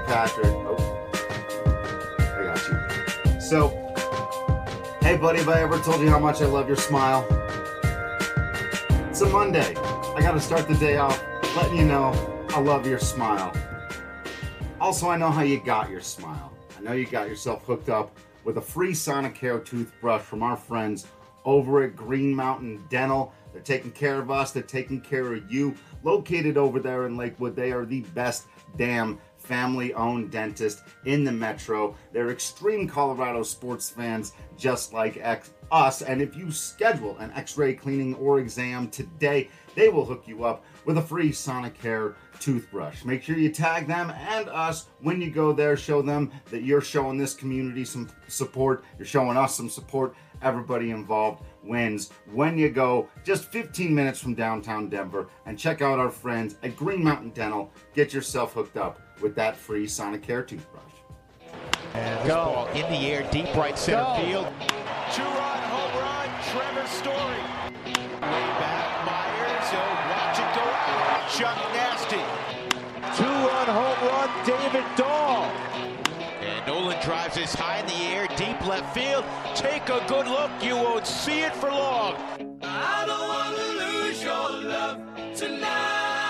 Patrick. Oh, I got you. So, hey buddy, have I ever told you how much I love your smile? It's a Monday. I gotta start the day off letting you know I love your smile. Also, I know how you got your smile. I know you got yourself hooked up with a free Sonicare toothbrush from our friends over at Green Mountain Dental. They're taking care of us. They're taking care of you. Located over there in Lakewood, they are the best damn family-owned dentist in the metro. They're extreme Colorado sports fans just like us. And if you schedule an x-ray cleaning or exam today, they will hook you up with a free Sonicare toothbrush. Make sure you tag them and us when you go there. Show them that you're showing this community some support. You're showing us some support. Everybody involved wins when you go just 15 minutes from downtown Denver and check out our friends at Green Mountain Dental. Get yourself hooked up with that free Sonicare toothbrush. And this ball in the air, deep right center field. Two-run home run, Trevor Story. Way back, Myers, watch it go. Chuck Nasty. Two-run home run, David Dahl. And Nolan drives this high in the air, deep left field. Take a good look, you won't see it for long. I don't want to lose your love tonight.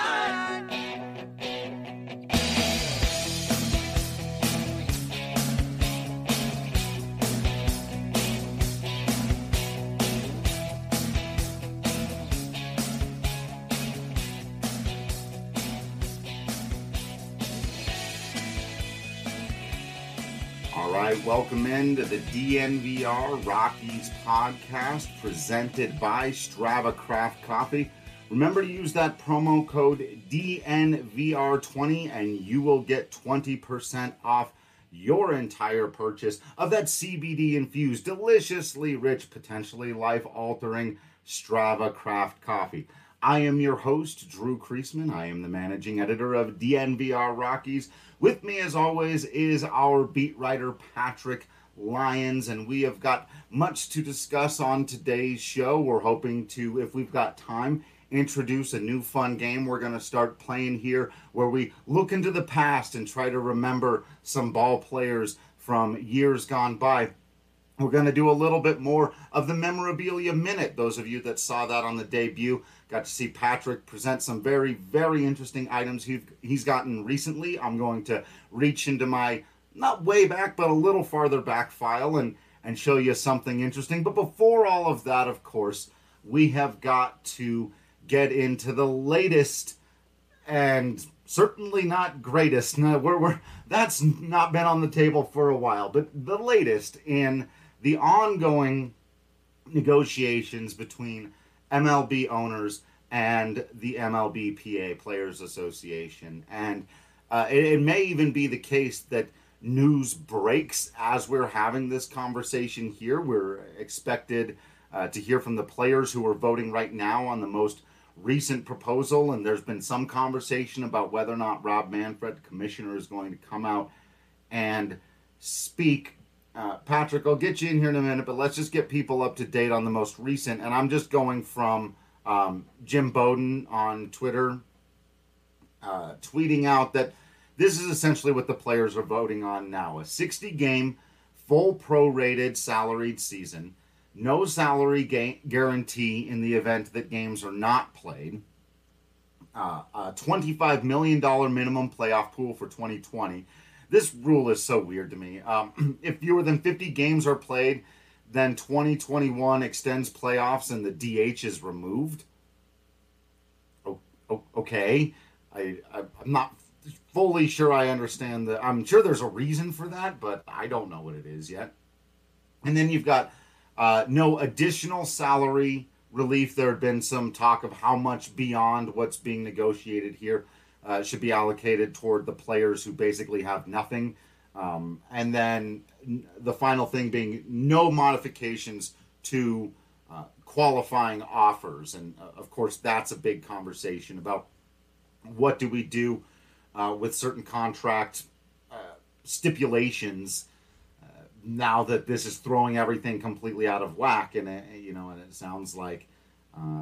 All right, welcome into the DNVR Rockies podcast presented by Strava Craft Coffee. Remember to use that promo code DNVR20 and you will get 20% off your entire purchase of that CBD-infused, deliciously rich, potentially life-altering Strava Craft Coffee. I am your host, Drew Kreisman. I am the managing editor of DNVR Rockies. With me, as always, is our beat writer, Patrick Lyons, and we have got much to discuss on today's show. We're hoping to, if we've got time, introduce a new fun game we're going to start playing here where we look into the past and try to remember some ball players from years gone by. We're going to do a little bit more of the Memorabilia Minute. Those of you that saw that on the debut got to see Patrick present some very, very interesting items he's gotten recently. I'm going to reach into my, not way back, but a little farther back file and show you something interesting. But before all of that, of course, we have got to get into the latest and certainly not greatest. No, that's not been on the table for a while, but the latest in the ongoing negotiations between MLB owners and the MLBPA Players Association. And it may even be the case that news breaks as we're having this conversation here. We're expected to hear from the players who are voting right now on the most recent proposal, and there's been some conversation about whether or not Rob Manfred, commissioner, is going to come out and speak. Patrick, I'll get you in here in a minute, but let's just get people up to date on the most recent. And I'm just going from Jim Bowden on Twitter, tweeting out that this is essentially what the players are voting on now. A 60-game, full prorated salaried season, no salary guarantee in the event that games are not played, a $25 million minimum playoff pool for 2020. This rule is so weird to me. If fewer than 50 games are played, then 2021 extends playoffs and the DH is removed. Okay. I'm not fully sure I understand that. I'm sure there's a reason for that, but I don't know what it is yet. And then you've got no additional salary relief. There had been some talk of how much beyond what's being negotiated here should be allocated toward the players who basically have nothing. And then the final thing being no modifications to qualifying offers. And of course, that's a big conversation about what do we do with certain contract stipulations now that this is throwing everything completely out of whack. And it sounds like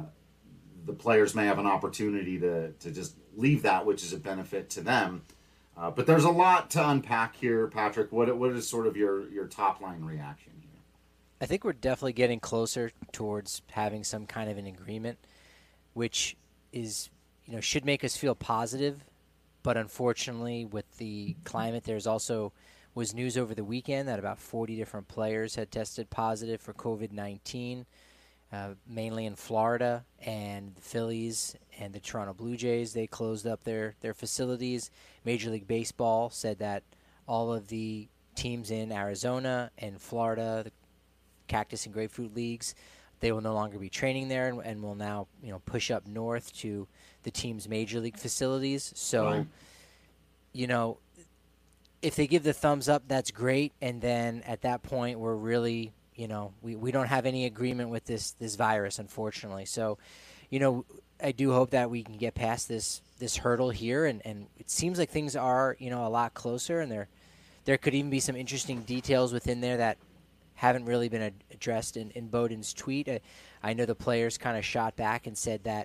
the players may have an opportunity to just leave that, which is a benefit to them. But there's a lot to unpack here, Patrick. What is sort of your top line reaction here? I think we're definitely getting closer towards having some kind of an agreement, which is, should make us feel positive. But unfortunately, with the climate, was news over the weekend that about 40 different players had tested positive for COVID-19, mainly in Florida, and the Phillies and the Toronto Blue Jays. They closed up their facilities. Major League Baseball said that all of the teams in Arizona and Florida, the Cactus and Grapefruit Leagues, they will no longer be training there and will now, push up north to the team's major league facilities. So, Right. If they give the thumbs up, that's great. And then at that point, we're really, we don't have any agreement with this virus, unfortunately. So, I do hope that we can get past this hurdle here. And it seems like things are, a lot closer. And there could even be some interesting details within there that haven't really been addressed in Bowden's tweet. I know the players kind of shot back and said that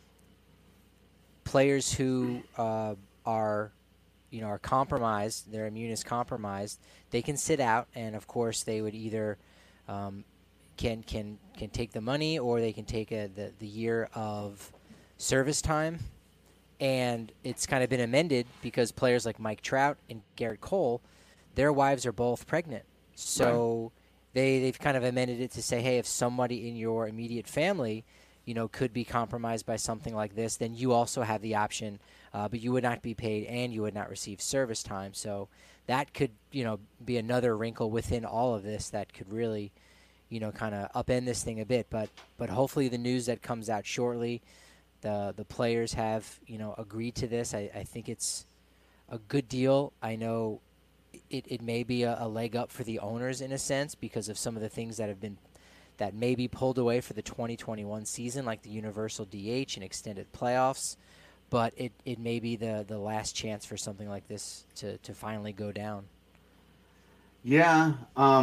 players who are compromised, their immune is compromised, they can sit out, and of course they would either can take the money, or they can take the year of service time. And it's kind of been amended because players like Mike Trout and Garrett Cole, their wives are both pregnant. So they've kind of amended it to say, hey, if somebody in your immediate family, could be compromised by something like this, then you also have the option, but you would not be paid and you would not receive service time. So that could, be another wrinkle within all of this that could really, kind of upend this thing a bit. But hopefully the news that comes out shortly, the players have, agreed to this. I think it's a good deal. I know it may be a leg up for the owners in a sense because of some of the things that may be pulled away for the 2021 season, like the universal DH and extended playoffs. But it may be the last chance for something like this to finally go down. Yeah,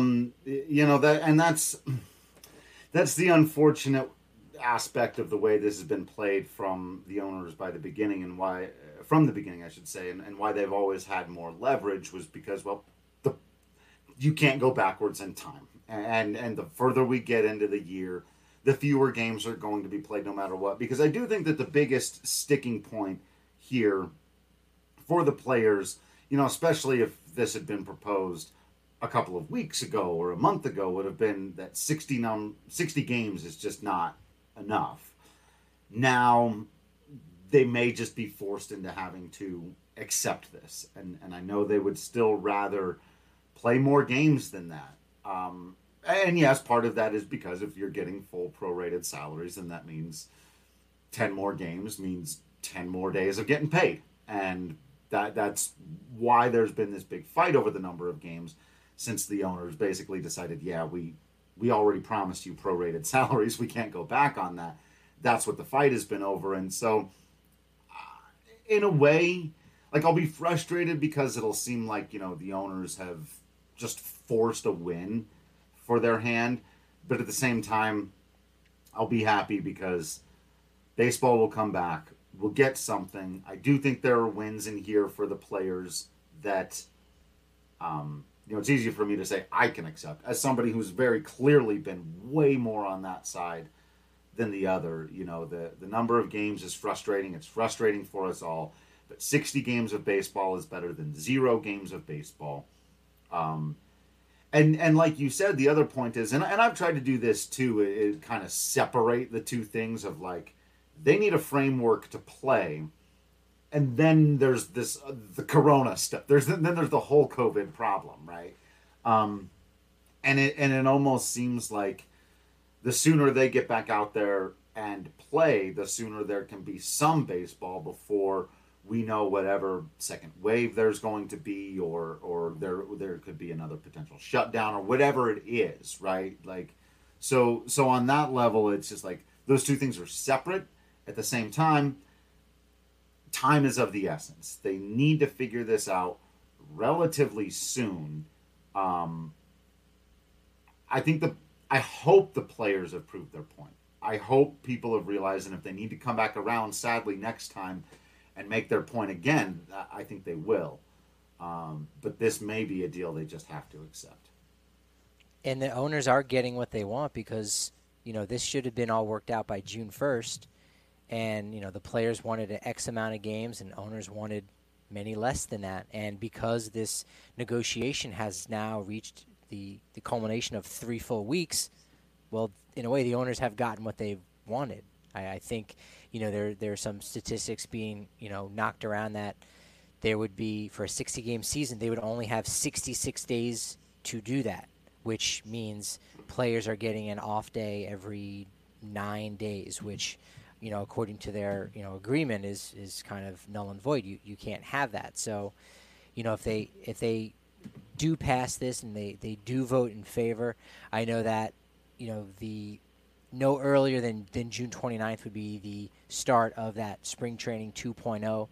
that's the unfortunate aspect of the way this has been played from the owners by the beginning, and why from the beginning, I should say, and why they've always had more leverage was because, well, you can't go backwards in time, and the further we get into the year, the fewer games are going to be played no matter what. Because I do think that the biggest sticking point here for the players, especially if this had been proposed a couple of weeks ago or a month ago, would have been that 60 games is just not enough. Now, they may just be forced into having to accept this. And I know they would still rather play more games than that. And yes, part of that is because if you're getting full prorated salaries, then that means 10 more games means 10 more days of getting paid. And that's why there's been this big fight over the number of games, since the owners basically decided, yeah, we already promised you prorated salaries. We can't go back on that. That's what the fight has been over. And so, in a way, like, I'll be frustrated because it'll seem like, the owners have just forced a win for their hand. But at the same time, I'll be happy because baseball will come back. We'll get something. I do think there are wins in here for the players that, it's easier for me to say I can accept as somebody who's very clearly been way more on that side than the other. The number of games is frustrating. It's frustrating for us all. But 60 games of baseball is better than 0 games of baseball. And like you said, the other point is, and I've tried to do this too, is kind of separate the two things of, like, they need a framework to play, and then there's the corona stuff. Then there's the whole COVID problem, right? And it almost seems like the sooner they get back out there and play, the sooner there can be some baseball before we know whatever second wave there's going to be, or there could be another potential shutdown or whatever it is, right? Like, so on that level, it's just like those two things are separate. At the same time, time is of the essence. They need to figure this out relatively soon. I hope the players have proved their point. I hope people have realized, and if they need to come back around, sadly, next time and make their point again, I think they will. But this may be a deal they just have to accept. And the owners are getting what they want because, this should have been all worked out by June 1st. And, the players wanted an X amount of games and owners wanted many less than that. And because this negotiation has now reached the culmination of 3 full weeks, well, in a way, the owners have gotten what they wanted. I think, there are some statistics being, knocked around that there would be, for a 60-game season, they would only have 66 days to do that, which means players are getting an off day every 9 days, which, according to their, agreement is kind of null and void. You can't have that. So, if they do pass this and they do vote in favor, I know that, no earlier than June 29th would be the start of that spring training 2.0,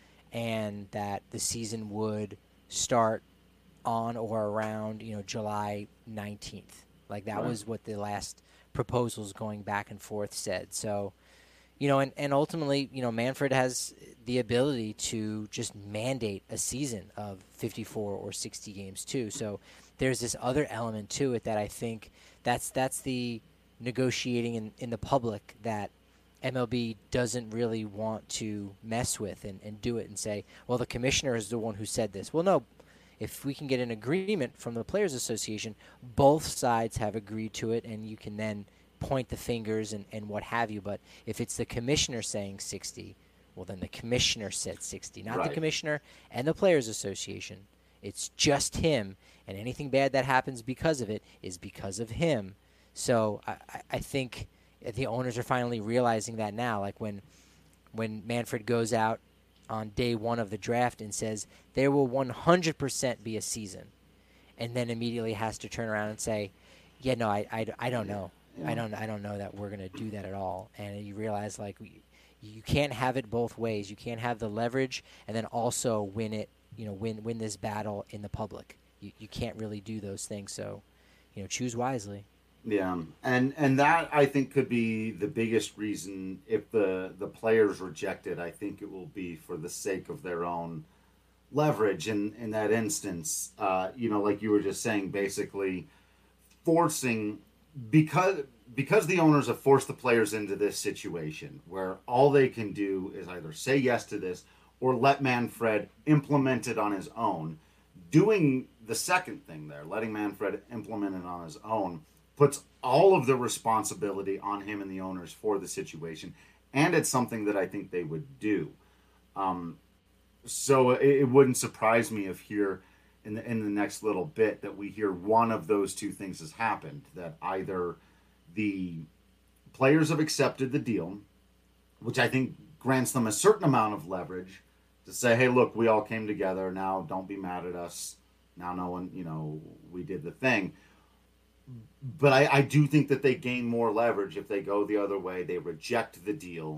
and that the season would start on or around, July 19th. Like that Right. was what the last proposals going back and forth said. So, and ultimately, Manfred has the ability to just mandate a season of 54 or 60 games too. So there's this other element to it that I think that's the negotiating in the public that MLB doesn't really want to mess with and do it and say, well, the commissioner is the one who said this. Well, no. If we can get an agreement from the Players Association, both sides have agreed to it, and you can then point the fingers and what have you. But if it's the commissioner saying 60, well, then the commissioner said 60, not Right. the commissioner and the Players Association. It's just him, and anything bad that happens because of it is because of him. So I think the owners are finally realizing that now. Like when Manfred goes out on day one of the draft and says there will 100% be a season, and then immediately has to turn around and say, yeah, no, I don't know. Yeah. I don't know that we're going to do that at all. And you realize, like, you can't have it both ways. You can't have the leverage and then also win it, win this battle in the public. You can't really do those things. So, choose wisely. Yeah, and that I think could be the biggest reason if the players reject it. I think it will be for the sake of their own leverage in that instance. Like you were just saying, basically forcing because the owners have forced the players into this situation where all they can do is either say yes to this or let Manfred implement it on his own. Doing the second thing there, letting Manfred implement it on his own, puts all of the responsibility on him and the owners for the situation, and it's something that I think they would do. So it wouldn't surprise me if here in the next little bit that we hear one of those two things has happened, that either the players have accepted the deal, which I think grants them a certain amount of leverage to say, hey, look, we all came together, now don't be mad at us, now no one, we did the thing. But I do think that they gain more leverage if they go the other way. They reject the deal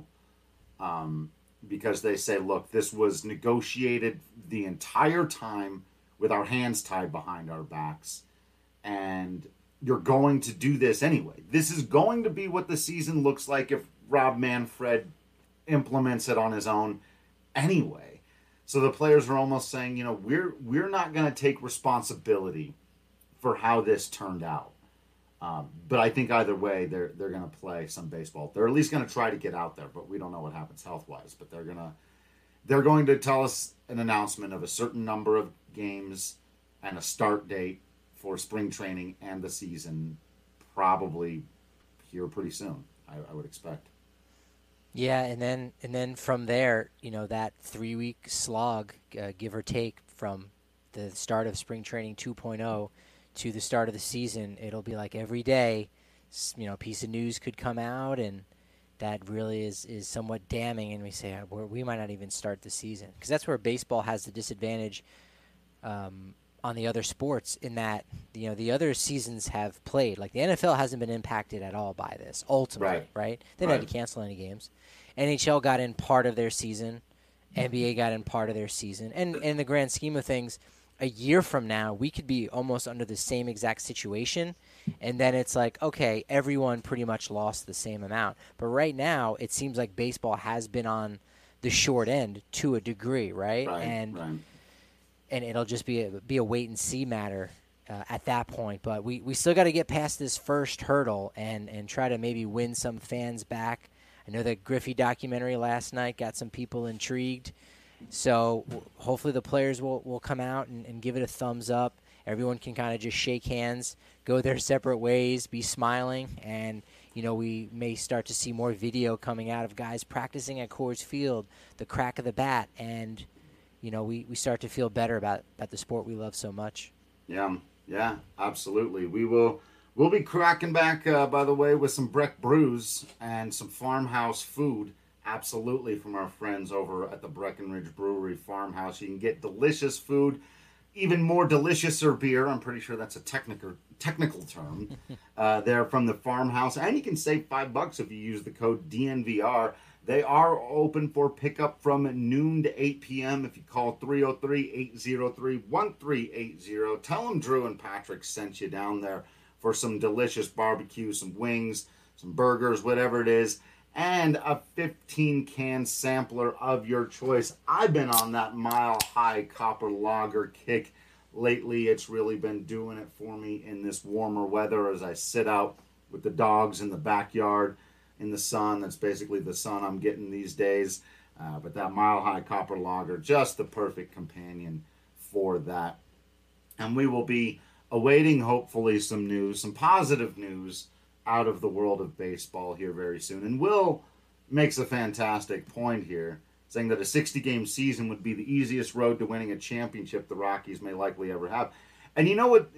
because they say, look, this was negotiated the entire time with our hands tied behind our backs. And you're going to do this anyway. This is going to be what the season looks like if Rob Manfred implements it on his own anyway. So the players are almost saying, we're not going to take responsibility for how this turned out. But I think either way, they're going to play some baseball. They're at least going to try to get out there, but we don't know what happens health-wise. But they're going to tell us an announcement of a certain number of games and a start date for spring training and the season, probably here pretty soon. I would expect. Yeah, and then from there, that 3-week slog, give or take, from the start of spring training 2.0 to the start of the season, it'll be like every day, a piece of news could come out, and that really is somewhat damning, and we say, we might not even start the season. Because that's where baseball has the disadvantage on the other sports, in that, the other seasons have played. Like, the NFL hasn't been impacted at all by this, ultimately, right? They didn't have to cancel any games. NHL got in part of their season. NBA got in part of their season. And in the grand scheme of things, a year from now, we could be almost under the same exact situation, and then it's like, okay, everyone pretty much lost the same amount. But right now, it seems like baseball has been on the short end to a degree, right? Right. and it'll just be a wait and see matter at that point. But we still got to get past this first hurdle and try to maybe win some fans back. I know that Griffey documentary last night got some people intrigued. So hopefully the players will come out and give it a thumbs up. Everyone can kind of just shake hands, go their separate ways, be smiling, and we may start to see more video coming out of guys practicing at Coors Field, the crack of the bat, and we start to feel better about the sport we love so much. Yeah, absolutely. We'll be cracking back, by the way, with some Breck brews and some farmhouse food, absolutely, from our friends over at the Breckenridge Brewery Farmhouse. You can get delicious food, even more deliciouser beer. I'm pretty sure that's a technical term. They're from the Farmhouse, and you can save $5 if you use the code DNVR. They are open for pickup from noon to 8 p.m. If you call 303-803-1380, tell them Drew and Patrick sent you down there for some delicious barbecue, some wings, some burgers, whatever it is, and a 15-can sampler of your choice. I've been on that Mile High Copper Lager kick lately. It's really been doing it for me in this warmer weather as I sit out with the dogs in the backyard in the sun. That's basically the sun I'm getting these days. But that Mile High Copper Lager, just the perfect companion for that. And we will be awaiting, hopefully, some positive news out of the world of baseball here very soon. And Will makes a fantastic point here, saying that a 60-game season would be the easiest road to winning a championship the Rockies may likely ever have. And you know what?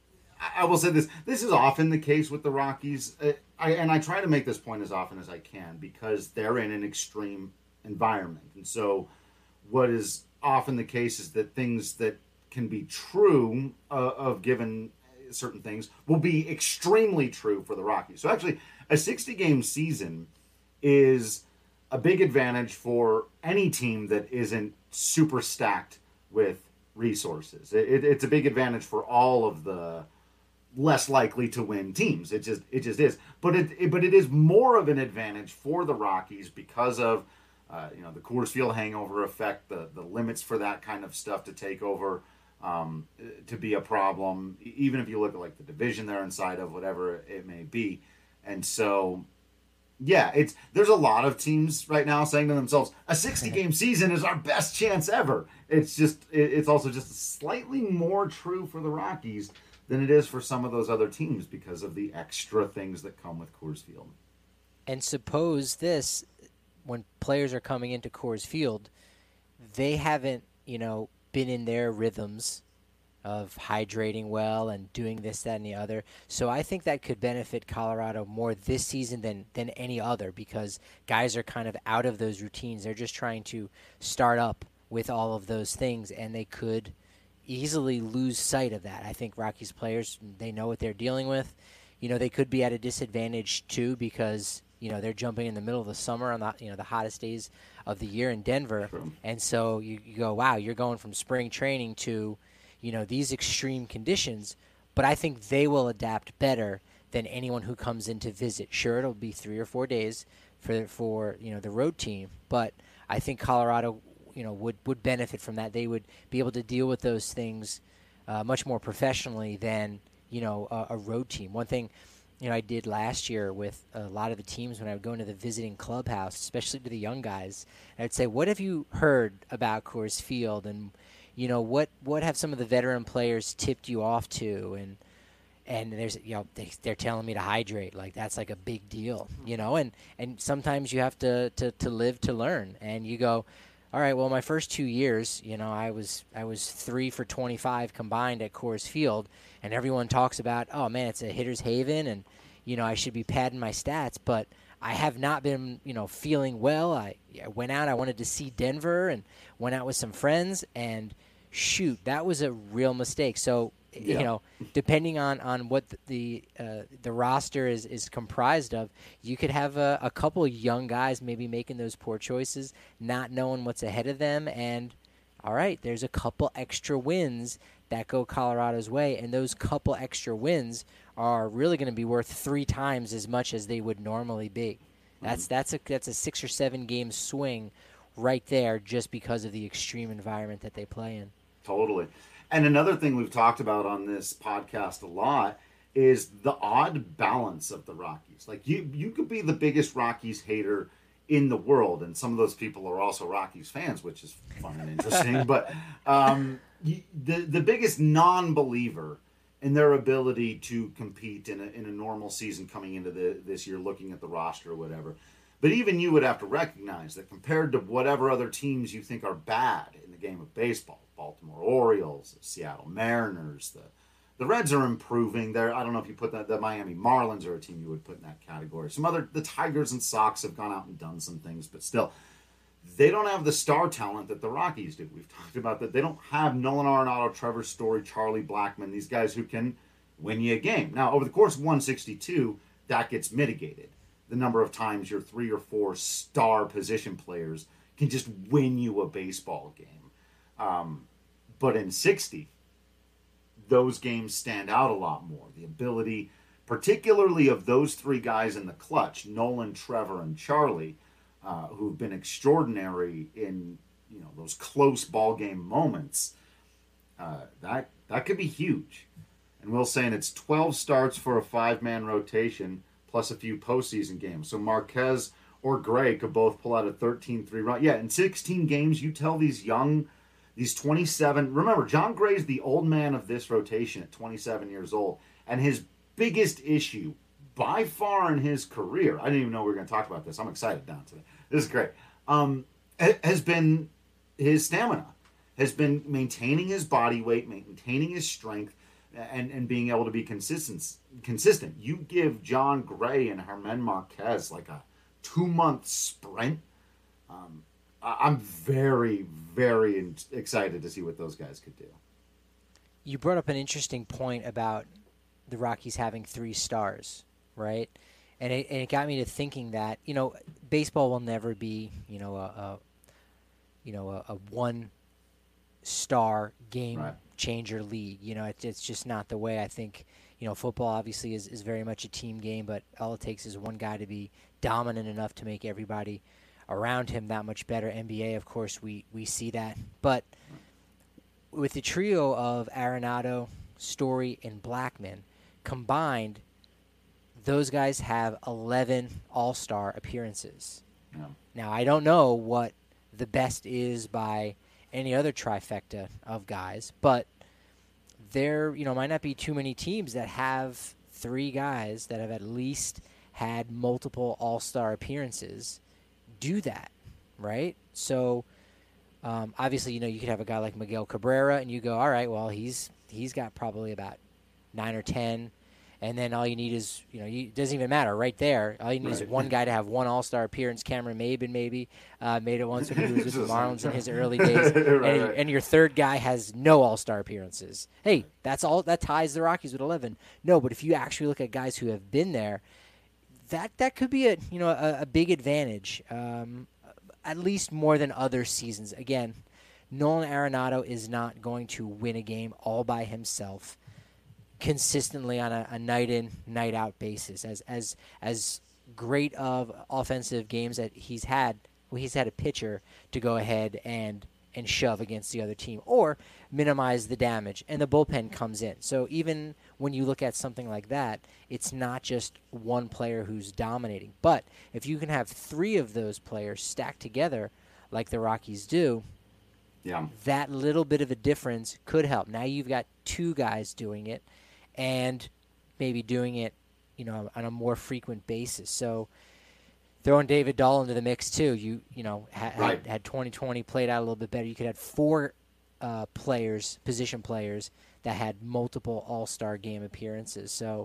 I will say this. This is often the case with the Rockies. I try to make this point as often as I can because they're in an extreme environment. And so what is often the case is that things that can be true of given certain things will be extremely true for the Rockies. So actually, a 60-game season is a big advantage for any team that isn't super stacked with resources. It's a big advantage for all of the less likely to win teams. It just is. But it is more of an advantage for the Rockies because of the Coors Field hangover effect, the limits for that kind of stuff to take over, to be a problem, even if you look at like the division they're inside of, whatever it may be. And so, yeah, there's a lot of teams right now saying to themselves, a 60-game season is our best chance ever. It's also just slightly more true for the Rockies than it is for some of those other teams because of the extra things that come with Coors Field. And suppose this, when players are coming into Coors Field, they haven't, been in their rhythms of hydrating well and doing this, that, and the other. So I think that could benefit Colorado more this season than any other because guys are kind of out of those routines. They're just trying to start up with all of those things, and they could easily lose sight of that. I think Rockies players, they know what they're dealing with. They could be at a disadvantage too because they're jumping in the middle of the summer on the hottest days of the year in Denver. True. And so you go, wow, you're going from spring training to these extreme conditions, but I think they will adapt better than anyone who comes in to visit. Sure, it'll be 3 or 4 days for the road team, but I think Colorado would benefit from that. They would be able to deal with those things much more professionally than a road team. One thing I did last year with a lot of the teams when I would go into the visiting clubhouse, especially to the young guys, I'd say, what have you heard about Coors Field? And, what have some of the veteran players tipped you off to? And there's, they're telling me to hydrate. Like, that's like a big deal, and sometimes you have to live to learn. And you go, all right, well, my first 2 years, I was 3 for 25 combined at Coors Field, and everyone talks about, oh man, it's a hitter's haven, and I should be padding my stats, but I have not been feeling well. I went out, I wanted to see Denver, and went out with some friends, and shoot, that was a real mistake. So depending on what the roster is comprised of, you could have a couple young guys maybe making those poor choices, not knowing what's ahead of them, and all right, there's a couple extra wins that go Colorado's way, and those couple extra wins are really going to be worth 3 times as much as they would normally be. That's a 6 or 7 game swing right there just because of the extreme environment that they play in. Totally. And another thing we've talked about on this podcast a lot is the odd balance of the Rockies. Like you could be the biggest Rockies hater in the world, and some of those people are also Rockies fans, which is fun and interesting. But the biggest non-believer in their ability to compete in a normal season coming into this year, looking at the roster or whatever. But even you would have to recognize that compared to whatever other teams you think are bad in the game of baseball, Baltimore Orioles, the Seattle Mariners, the Reds are improving. I don't know if you put the Miami Marlins are a team you would put in that category. The Tigers and Sox have gone out and done some things, but still, they don't have the star talent that the Rockies do. We've talked about that. They don't have Nolan Arenado, Trevor Story, Charlie Blackmon, these guys who can win you a game. Now, over the course of 162, that gets mitigated. The number of times your 3 or 4 star position players can just win you a baseball game. But in 60, those games stand out a lot more. The ability, particularly of those 3 guys in the clutch, Nolan, Trevor, and Charlie, who've been extraordinary in those close ball game moments, that could be huge. And Will's saying it's 12 starts for a 5-man rotation plus a few postseason games. So Marquez or Gray could both pull out a 13-3 run. Yeah, in 16 games, you tell these 27. Remember, John Gray's the old man of this rotation at 27 years old. And his biggest issue by far in his career, I didn't even know we were going to talk about this. I'm excited now today. This is great. Has been his stamina, has been maintaining his body weight, maintaining his strength, and being able to be consistent. You give John Gray and Germán Marquez like a 2-month sprint. I'm very, very excited to see what those guys could do. You brought up an interesting point about the Rockies having 3 stars, right? And it got me to thinking that baseball will never be a 1-star game changer league. It's just not the way. I think football obviously is very much a team game, but all it takes is one guy to be dominant enough to make everybody around him that much better. NBA, of course, we see that. But with the trio of Arenado, Story, and Blackmon combined, those guys have 11 All-Star appearances. Yeah. Now, I don't know what the best is by any other trifecta of guys, but there might not be too many teams that have 3 guys that have at least had multiple All-Star appearances do that, right? So obviously, you could have a guy like Miguel Cabrera, and you go, all right, well, he's got probably about 9 or 10, and then all you need is, it doesn't even matter right there. All you need is one guy to have 1 All-Star appearance. Cameron Maben maybe made it once when he was with the Marlins in his early days, and your third guy has no All-Star appearances. Hey, that's all. That ties the Rockies with 11. No, but if you actually look at guys who have been there, that could be a big advantage, at least more than other seasons. Again, Nolan Arenado is not going to win a game all by himself consistently on a night in, night out basis. As great of offensive games that he's had a pitcher to go ahead and shove against the other team or minimize the damage, and the bullpen comes in. So even when you look at something like that, it's not just one player who's dominating. But if you can have 3 of those players stacked together like the Rockies do, that little bit of a difference could help. Now you've got 2 guys doing it, and maybe doing it, on a more frequent basis. So throwing David Dahl into the mix too. Had 2020 played out a little bit better, you could have 4 position players that had multiple All-Star game appearances. So,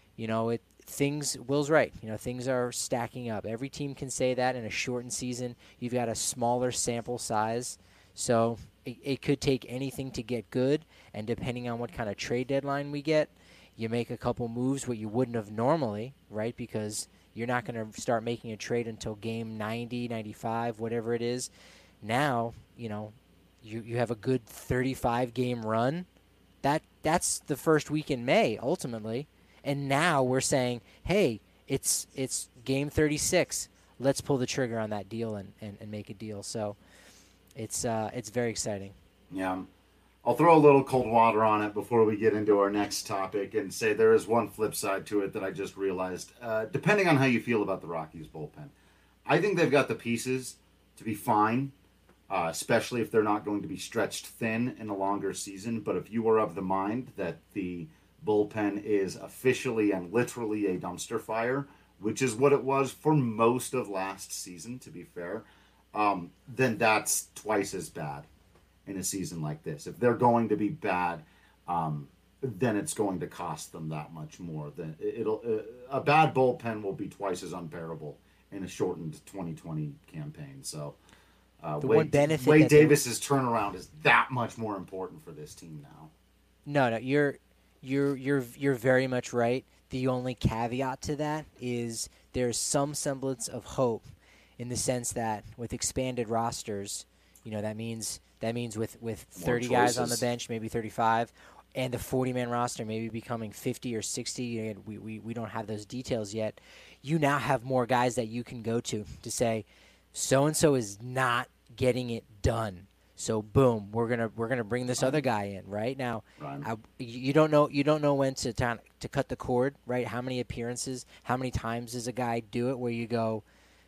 Will's right. Things are stacking up. Every team can say that in a shortened season. You've got a smaller sample size, so it could take anything to get good. And depending on what kind of trade deadline we get, you make a couple moves what you wouldn't have normally, right? Because you're not going to start making a trade until game 90, 95, whatever it is. Now, you have a good 35-game run. That's the first week in May, ultimately. And now we're saying, hey, it's game 36. Let's pull the trigger on that deal and make a deal. So it's very exciting. Yeah. I'll throw a little cold water on it before we get into our next topic and say there is one flip side to it that I just realized. Depending on how you feel about the Rockies bullpen, I think they've got the pieces to be fine, especially if they're not going to be stretched thin in a longer season. But if you are of the mind that the bullpen is officially and literally a dumpster fire, which is what it was for most of last season, to be fair, then that's twice as bad in a season like this. If they're going to be bad, then it's going to cost them that much more. Then a bad bullpen will be twice as unbearable in a shortened 2020 campaign. So one benefit Wade Davis's turnaround is that much more important for this team now. No, you're very much right. The only caveat to that is there's some semblance of hope in the sense that with expanded rosters, that means with 30 guys on the bench, maybe 35, and the 40-man roster maybe becoming 50 or 60. We don't have those details yet. You now have more guys that you can go to say, so-and-so is not getting it done. So boom, we're gonna bring this other guy in right now. Right. You don't know when to cut the cord, right? How many appearances, how many times does a guy do it where you go,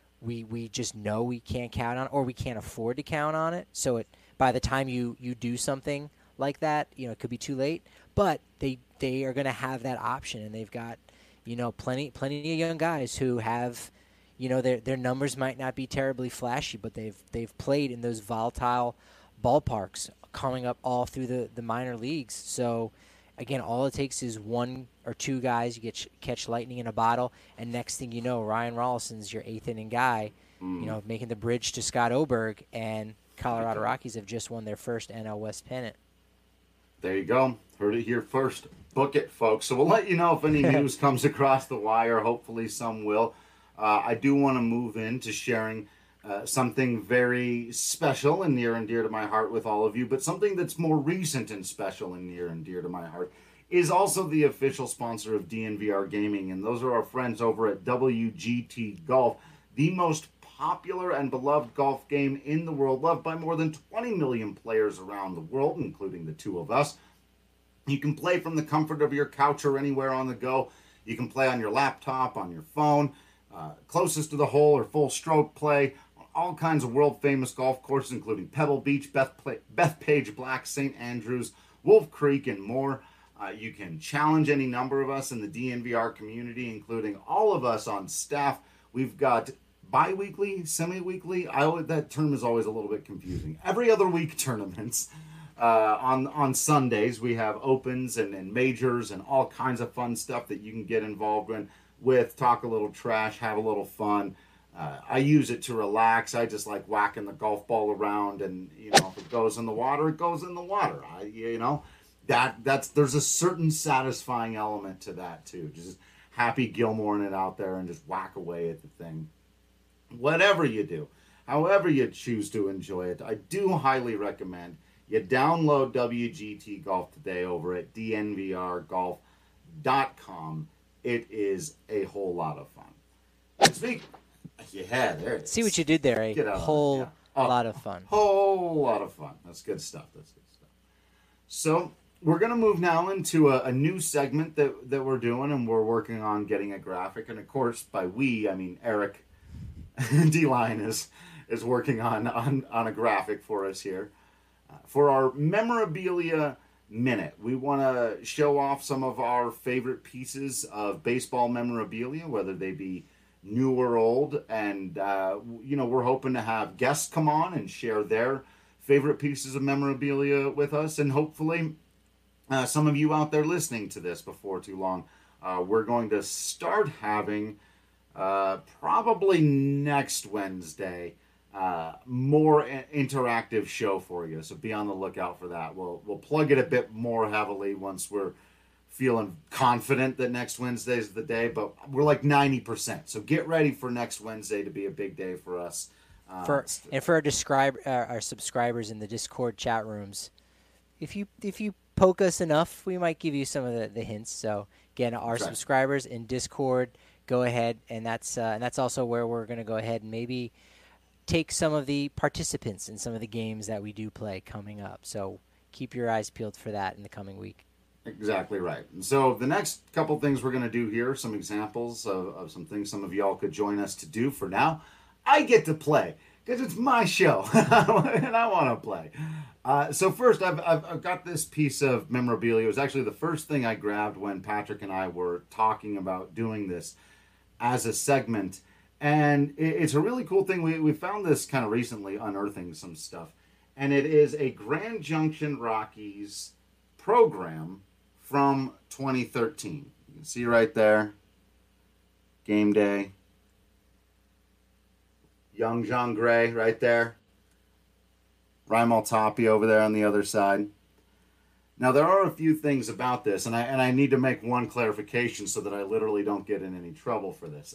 we just know we can't count on it, or we can't afford to count on it. So by the time you do something like that, it could be too late. But they are going to have that option, and they've got plenty of young guys who have their numbers might not be terribly flashy, but they've played in those volatile ballparks coming up all through the minor leagues. So again, all it takes is one or two guys. You catch lightning in a bottle, and next thing you know, Ryan Rollison's your eighth inning guy, making the bridge to Scott Oberg, and Colorado Rockies have just won their first NL West pennant. There you go. Heard it here first. Book it, folks. So we'll let you know if any news comes across the wire. Hopefully some will. I do want to move into sharing something very special and near and dear to my heart with all of you, but something that's more recent and special and near and dear to my heart is also the official sponsor of DNVR Gaming, and those are our friends over at WGT Golf, the most popular and beloved golf game in the world, loved by more than 20 million players around the world, including the two of us. You can play from the comfort of your couch or anywhere on the go. You can play on your laptop, on your phone, closest to the hole or full stroke play, all kinds of world-famous golf courses, including Pebble Beach, Bethpage Black, St. Andrews, Wolf Creek, and more. You can challenge any number of us in the DNVR community, including all of us on staff. We've got bi-weekly, semi-weekly. That term is always a little bit confusing. Every other week tournaments. On Sundays, we have opens and majors and all kinds of fun stuff that you can get involved with, talk a little trash, have a little fun. I use it to relax. I just like whacking the golf ball around, and if it goes in the water, it goes in the water. There's a certain satisfying element to that too. Just Happy Gilmoreing it out there and just whack away at the thing. Whatever you do, however you choose to enjoy it, I do highly recommend you download WGT Golf today over at dnvrgolf.com. It is a whole lot of fun. There it is. See what you did there, a whole lot of fun. Whole lot of fun. That's good stuff. So we're going to move now into a new segment that we're doing, and we're working on getting a graphic. And of course, by we, I mean Eric D-Line is working on a graphic for us here. For our memorabilia minute, we want to show off some of our favorite pieces of baseball memorabilia, whether they be new or old, and we're hoping to have guests come on and share their favorite pieces of memorabilia with us, and hopefully some of you out there listening to this before too long. We're going to start having probably next Wednesday more interactive show for you, so be on the lookout for that. We'll plug it a bit more heavily once we're feeling confident that next Wednesday is the day, but we're like 90%. So get ready for next Wednesday to be a big day for us. For our subscribers in the Discord chat rooms, if you poke us enough, we might give you some of the hints. So again, our subscribers in Discord, go ahead, and that's also where we're going to go ahead and maybe take some of the participants in some of the games that we do play coming up. So keep your eyes peeled for that in the coming week. Exactly right. And so the next couple things we're going to do here, some examples of some things some of y'all could join us to do. For now, I get to play because it's my show and I want to play. So first, I've got this piece of memorabilia. It was actually the first thing I grabbed when Patrick and I were talking about doing this as a segment. And it's a really cool thing. We found this kind of recently, unearthing some stuff. And it is a Grand Junction Rockies program from 2013. You can see right there, game day. Young John Gray right there. Raimel Tapia over there on the other side. Now, there are a few things about this, and I need to make one clarification so that I literally don't get in any trouble for this.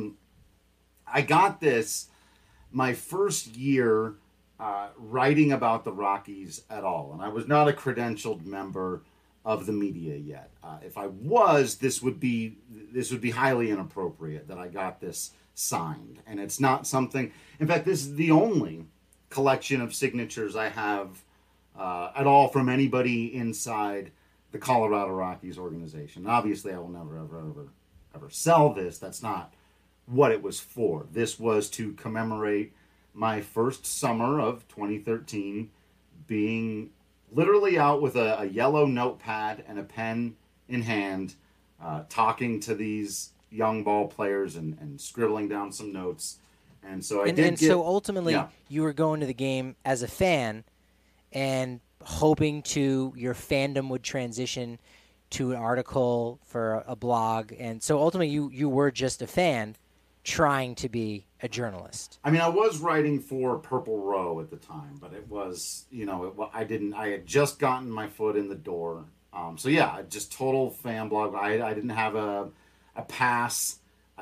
I got this my first year writing about the Rockies at all, and I was not a credentialed member of the media yet. If I was, this would be highly inappropriate that I got this signed, and it's not something. In fact, this is the only collection of signatures I have at all from anybody inside the Colorado Rockies organization. Obviously, I will never, ever sell this. That's not what it was for. This was to commemorate my first summer of 2013 being literally out with a yellow notepad and a pen in hand, talking to these young ball players and scribbling down some notes. And so so ultimately, you were going to the game as a fan and hoping your fandom would transition to an article for a blog. And so ultimately, you were just a fan trying to be a journalist. I mean, I was writing for Purple Row at the time, but it was, I had just gotten my foot in the door. So yeah, just total fan blog. I didn't have a pass. I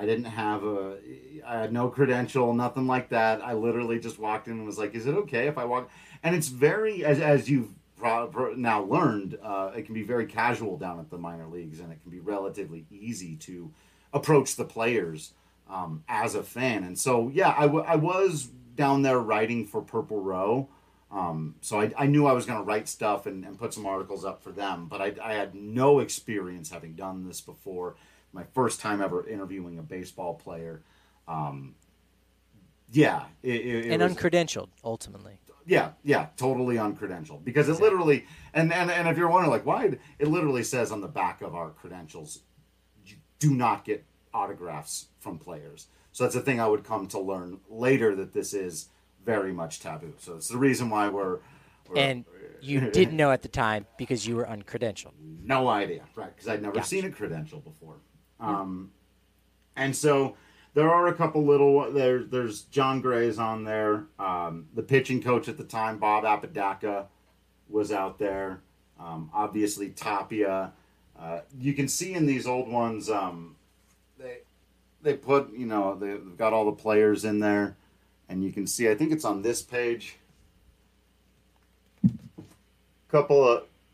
had no credential, nothing like that. I literally just walked in and was like, is it okay if I walk? And it's very, as you've now learned, it can be very casual down at the minor leagues, and it can be relatively easy to approach the players as a fan. And so, yeah, I was down there writing for Purple Row. So I knew I was going to write stuff and put some articles up for them, but I had no experience having done this before. My first time ever interviewing a baseball player. It and was uncredentialed, ultimately. Yeah, totally uncredentialed. Because it literally, and if you're wondering, like, why, it literally says on the back of our credentials, you do not get autographs from players. So that's a thing I would come to learn later, that this is very much taboo. So it's the reason why we're and you didn't know at the time because you were uncredentialed. No idea, right? Because I'd never seen a credential before. And so there are a couple little. There's John Gray's on there. The pitching coach at the time, Bob Apodaca, was out there. Obviously Tapia. You can see in these old ones, they put, they've got all the players in there, and you can see, I think it's on this page, couple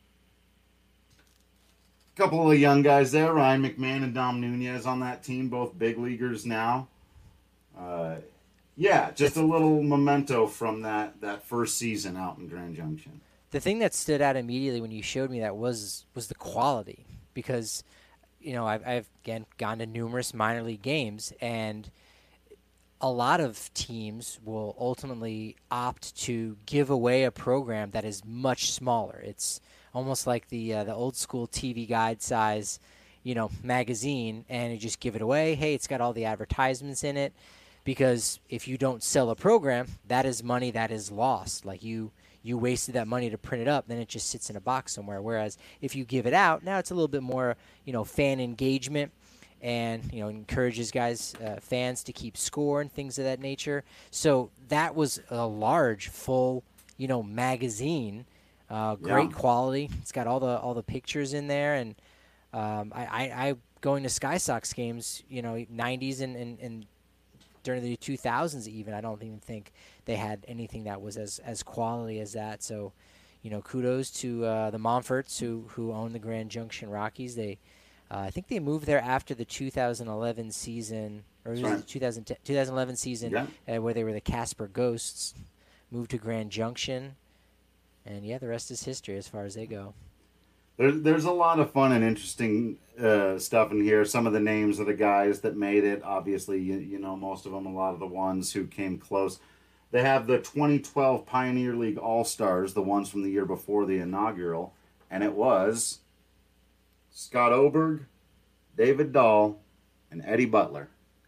of young guys there, Ryan McMahon and Dom Nunez on that team, both big leaguers now. Just a little memento from that first season out in Grand Junction. The thing that stood out immediately when you showed me that was the quality, because I've again gone to numerous minor league games, and a lot of teams will ultimately opt to give away a program that is much smaller. It's almost like the old school TV guide size, magazine, and you just give it away. Hey, it's got all the advertisements in it, because if you don't sell a program, that is money that is lost. Like you wasted that money to print it up, then it just sits in a box somewhere. Whereas if you give it out, now it's a little bit more, fan engagement, and encourages fans to keep score and things of that nature. So that was a large, full, magazine. Great quality. It's got all the pictures in there, and I going to Sky Sox games, 90s and during the 2000s even. I don't even think they had anything that was as quality as that. So, kudos to the Monforts who own the Grand Junction Rockies. They, I think they moved there after the 2011 season, or it was the 2011 season where they were the Casper Ghosts. Moved to Grand Junction. And yeah, the rest is history as far as they go. There's a lot of fun and interesting stuff in here. Some of the names of the guys that made it, obviously, you know most of them. A lot of the ones who came close. They have the 2012 Pioneer League All-Stars, the ones from the year before the inaugural, and it was Scott Oberg, David Dahl, and Eddie Butler.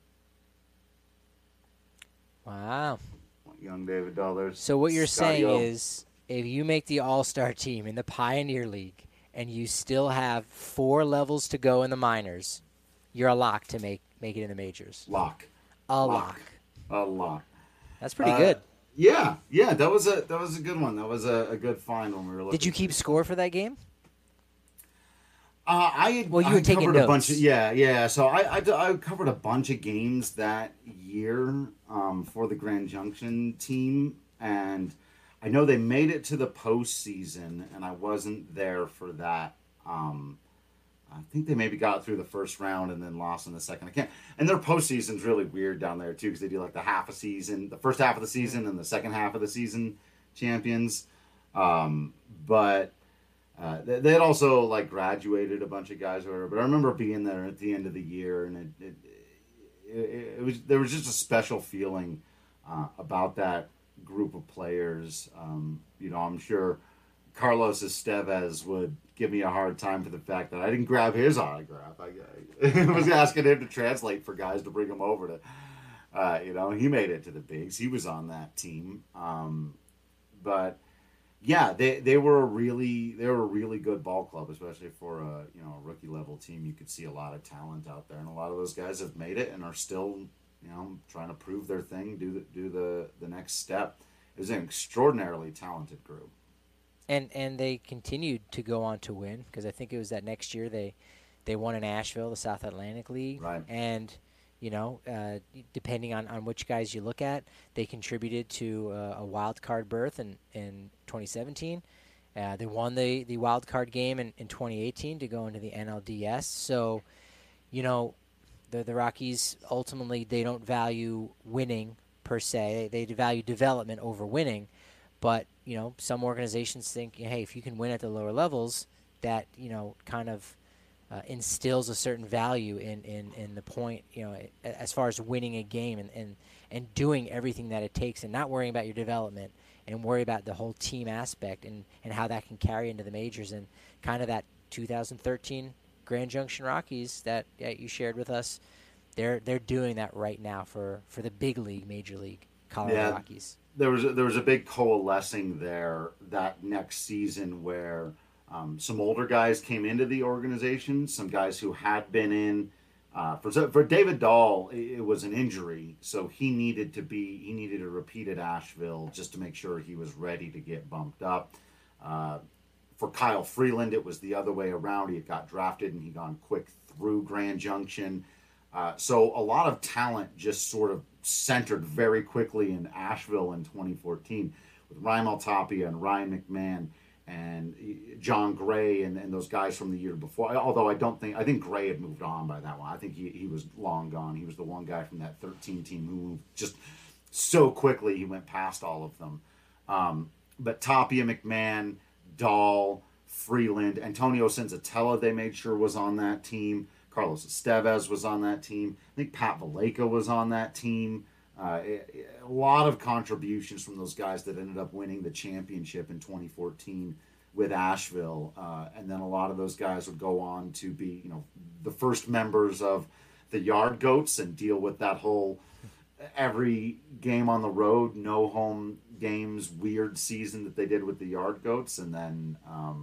Wow. Young David Dahl. There's So what you're Scotty saying O. is, if you make the All-Star team in the Pioneer League and you still have 4 levels to go in the minors, you're a lock to make it in the majors. Lock. A lock. A lock. That's pretty good. Yeah, that was a good one. That was a good find when we were looking. Did you keep score for that game? You were taking covered notes. a bunch of, yeah. So I covered a bunch of games that year for the Grand Junction team, and I know they made it to the postseason, and I wasn't there for that. I think they maybe got through the first round and then lost in the second. I can't. And their postseason's really weird down there too, because they do like the first half of the season, and the second half of the season champions. But they had also like graduated a bunch of guys or whatever. But I remember being there at the end of the year, and there was just a special feeling about that group of players. I'm sure Carlos Estevez would give me a hard time for the fact that I didn't grab his autograph. I was asking him to translate for guys to bring him over to, he made it to the bigs. He was on that team. But yeah, they were a really good ball club, especially for a rookie level team. You could see a lot of talent out there, and a lot of those guys have made it and are still, trying to prove their thing, do the next step. It was an extraordinarily talented group. And they continued to go on to win, because I think it was that next year they won in Asheville, the South Atlantic League. Right. And, depending on which guys you look at, they contributed to a wild card berth in 2017. They won the wild card game in 2018 to go into the NLDS. So, the Rockies, ultimately, they don't value winning per se. They value development over winning. But, some organizations think, hey, if you can win at the lower levels, that, kind of instills a certain value in the point, as far as winning a game and doing everything that it takes and not worrying about your development and worry about the whole team aspect and how that can carry into the majors. And kind of that 2013 Grand Junction Rockies that you shared with us, they're doing that right now for the big league, Major League Colorado Rockies. There was a big coalescing there that next season where some older guys came into the organization, some guys who had been in. For David Dahl, it was an injury, so he needed to repeat at Asheville just to make sure he was ready to get bumped up. For Kyle Freeland, it was the other way around. He had got drafted and he gone quick through Grand Junction. So a lot of talent just sort of centered very quickly in Asheville in 2014 with Raimel Tapia and Ryan McMahon and John Gray and those guys from the year before. Although I think Gray had moved on by that one. I think he was long gone. He was the one guy from that 13 team who moved just so quickly he went past all of them. But Tapia, McMahon, Dahl, Freeland, Antonio Senzatella they made sure was on that team. Carlos Estevez was on that team. I think Pat Valleca was on that team. A lot of contributions from those guys that ended up winning the championship in 2014 with Asheville. And then a lot of those guys would go on to be, the first members of the Yard Goats and deal with that whole every game on the road, no home games, weird season that they did with the Yard Goats. And then,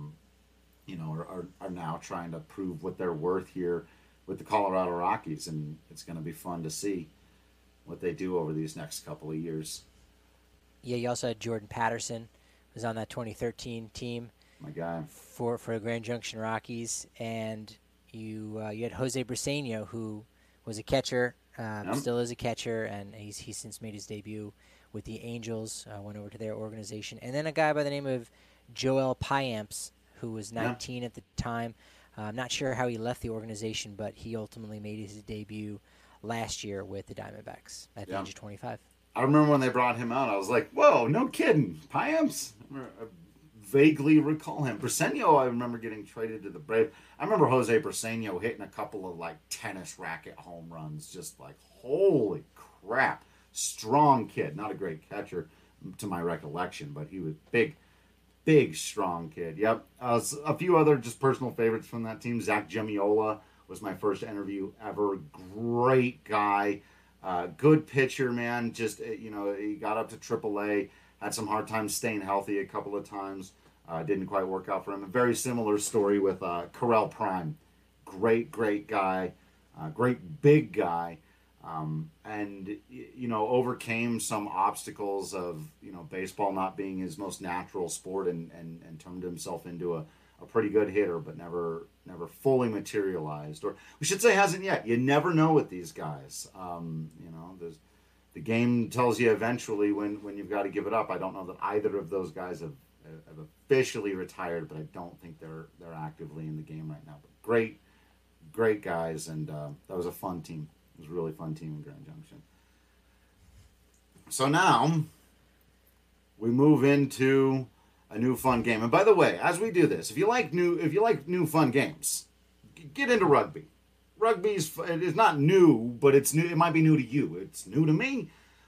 are now trying to prove what they're worth here with the Colorado Rockies, and it's going to be fun to see what they do over these next couple of years. Yeah, you also had Jordan Patterson, who was on that 2013 team. My guy. For the Grand Junction Rockies, and you had Jose Briseño, who was a catcher, still is a catcher, and he's since made his debut with the Angels, went over to their organization. And then a guy by the name of Joel Payamps, who was 19 at the time. I'm not sure how he left the organization, but he ultimately made his debut last year with the Diamondbacks at the age of 25. I remember when they brought him out, I was like, whoa, no kidding. Payamps? vaguely recall him. Briseño, I remember getting traded to the Braves. I remember Jose Briseño hitting a couple of like tennis racket home runs. Just like, holy crap. Strong kid. Not a great catcher to my recollection, but he was big, strong kid. Yep. A few other just personal favorites from that team. Zach Gemiola was my first interview ever. Great guy. Good pitcher, man. Just, he got up to AAA. Had some hard time staying healthy a couple of times. Didn't quite work out for him. A very similar story with Correll Prime. Great guy. Great big guy. And overcame some obstacles of, baseball not being his most natural sport and turned himself into a pretty good hitter, but never fully materialized. Or we should say hasn't yet. You never know with these guys. The game tells you eventually when you've got to give it up. I don't know that either of those guys have officially retired, but I don't think they're actively in the game right now. But great guys, and that was a fun team. It was a really fun team in Grand Junction. So now we move into a new fun game. And by the way, as we do this, if you like new fun games, get into rugby. Rugby is not new, but it's new. It might be new to you. It's new to me.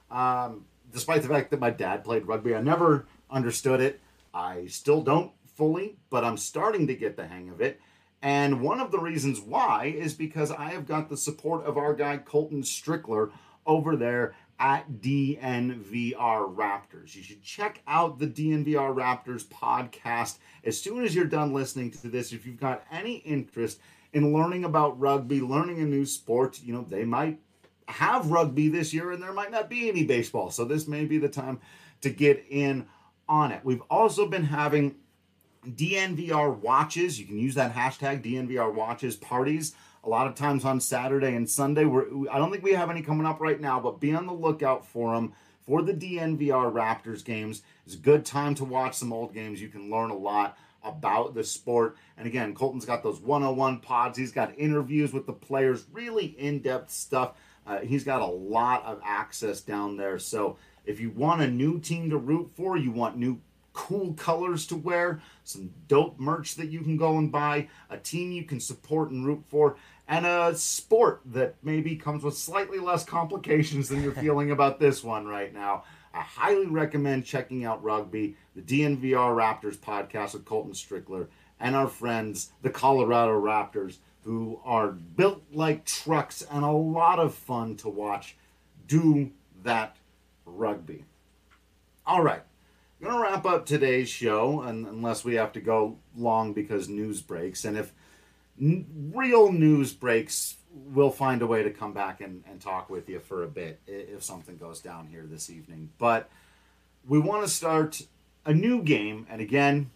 Despite the fact that my dad played rugby, I never understood it. I still don't fully, but I'm starting to get the hang of it. And one of the reasons why is because I have got the support of our guy Colton Strickler over there at DNVR Raptors. You should check out the DNVR Raptors podcast as soon as you're done listening to this. If you've got any interest in learning about rugby, learning a new sport, they might have rugby this year and there might not be any baseball. So this may be the time to get in on it. We've also been having DNVR watches. You can use that hashtag DNVR watches parties a lot of times on Saturday and Sunday. I don't think we have any coming up right now, but be on the lookout for them for the DNVR Raptors games. It's a good time to watch some old games. You can learn a lot about the sport. And again, Colton's got those 101 pods. He's got interviews with the players, really in-depth stuff. He's got a lot of access down there. So if you want a new team to root for, you want new cool colors to wear, some dope merch that you can go and buy, a team you can support and root for, and a sport that maybe comes with slightly less complications than you're feeling about this one right now, I highly recommend checking out rugby, the DNVR Raptors podcast with Colton Strickler, and our friends, the Colorado Raptors, who are built like trucks and a lot of fun to watch do that rugby. All right. I'm going to wrap up today's show, unless we have to go long because news breaks. And if real news breaks, we'll find a way to come back and talk with you for a bit if something goes down here this evening. But we want to start a new game. And again,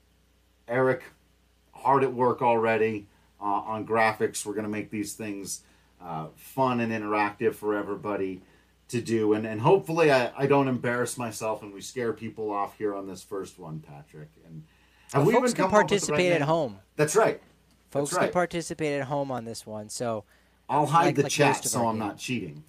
Eric, hard at work already on graphics. We're going to make these things fun and interactive for everybody to do, and hopefully I don't embarrass myself and we scare people off here on this first one, Patrick. And have we folks can participate at home. That's right. Folks can participate at home on this one. So I'll hide the chat so I'm not cheating.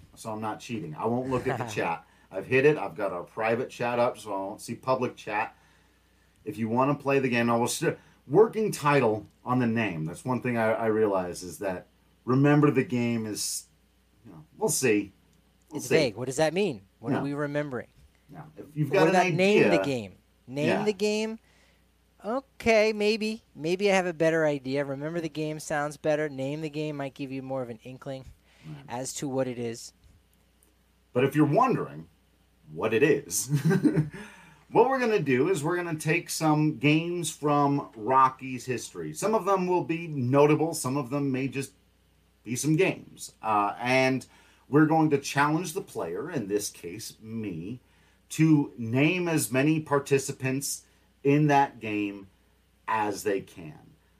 I won't look at the chat. I've hid it. I've got our private chat up so I won't see public chat. If you want to play the game, working title on the name. That's one thing I realize is that remember the game is, we'll see. It's vague. What does that mean? What are we remembering? Now, if you've got an idea, name the game. The game. Okay, maybe I have a better idea. Remember the game sounds better. Name the game might give you more of an inkling as to what it is. But if you're wondering what it is, what we're going to do is we're going to take some games from Rocky's history. Some of them will be notable. Some of them may just be some games. And we're going to challenge the player, in this case, me, to name as many participants in that game as they can.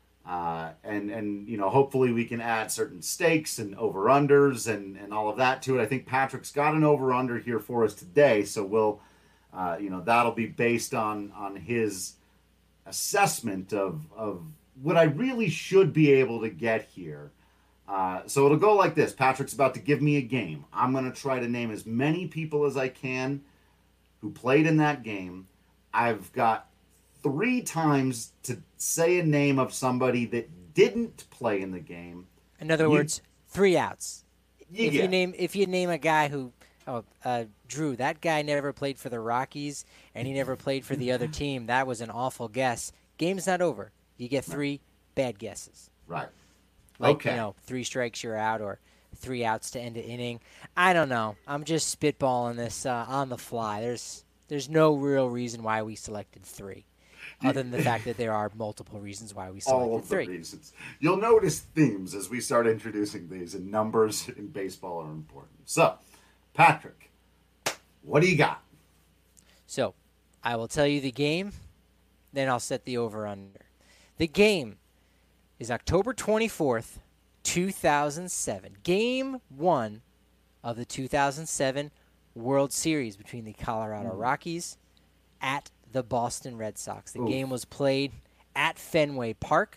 And hopefully we can add certain stakes and over-unders and all of that to it. I think Patrick's got an over-under here for us today, so we'll, that'll be based on his assessment of what I really should be able to get here. So it'll go like this. Patrick's about to give me a game. I'm going to try to name as many people as I can who played in that game. I've got 3 times to say a name of somebody that didn't play in the game. In other words, 3 outs. You If you name a guy who, Drew, that guy never played for the Rockies and he never played for the other team. That was an awful guess. Game's not over. You get 3 bad guesses. Right. Like, Okay. 3 strikes, you're out, or 3 outs to end an inning. I don't know. I'm just spitballing this on the fly. There's no real reason why we selected 3, other than the fact that there are multiple reasons why we selected All of 3. the reasons. You'll notice themes as we start introducing these, and numbers in baseball are important. So, Patrick, what do you got? So, I will tell you the game, then I'll set the over-under. The game is October 24th, 2007. Game 1 of the 2007 World Series between the Colorado Rockies at the Boston Red Sox. The game was played at Fenway Park.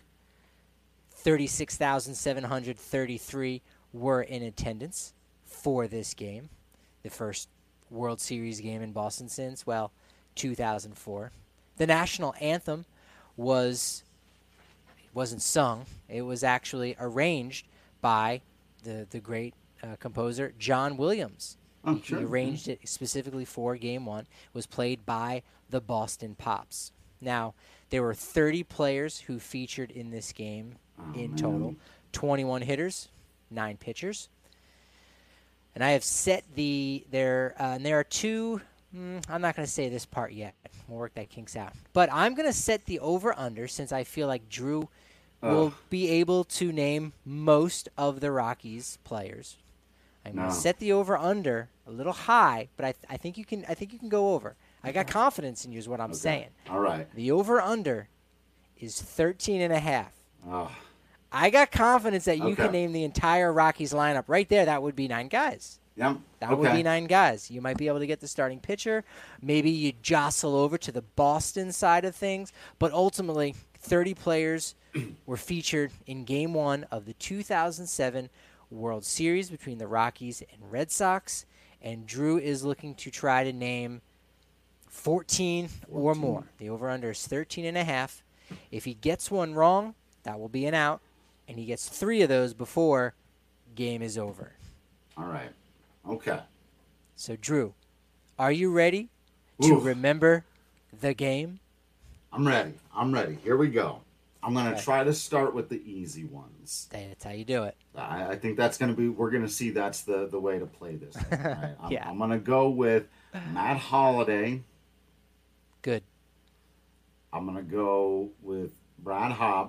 36,733 were in attendance for this game. The first World Series game in Boston since, 2004. The national anthem wasn't sung. It was actually arranged by the great composer John Williams. He arranged it specifically for Game 1. It was played by the Boston Pops. Now, there were 30 players who featured in this game in total. 21 hitters, 9 pitchers. And I have set and there are 2, I'm not going to say this part yet. We'll work that kinks out. But I'm going to set the over-under since I feel like Drew will be able to name most of the Rockies players. I'm going to set the over/under a little high, but I think you can go over. I got confidence in you is what I'm saying. All right. The over/under is 13.5. Oh. I got confidence that you can name the entire Rockies lineup. Right there, that would be 9 guys. Yep. That would be 9 guys. You might be able to get the starting pitcher. Maybe you jostle over to the Boston side of things. But ultimately, 30 players were featured in Game 1 of the 2007 World Series between the Rockies and Red Sox. And Drew is looking to try to name 14 or more. The over-under is 13.5. If he gets one wrong, that will be an out. And he gets 3 of those before game is over. All right. Okay. So, Drew, are you ready to remember the game? I'm ready. Here we go. I'm going to try to start with the easy ones. That's how you do it. I think that's going to be, we're going to see that's the way to play this. Right? Yeah. I'm going to go with Matt Holliday. Good. I'm going to go with Brad Hopp.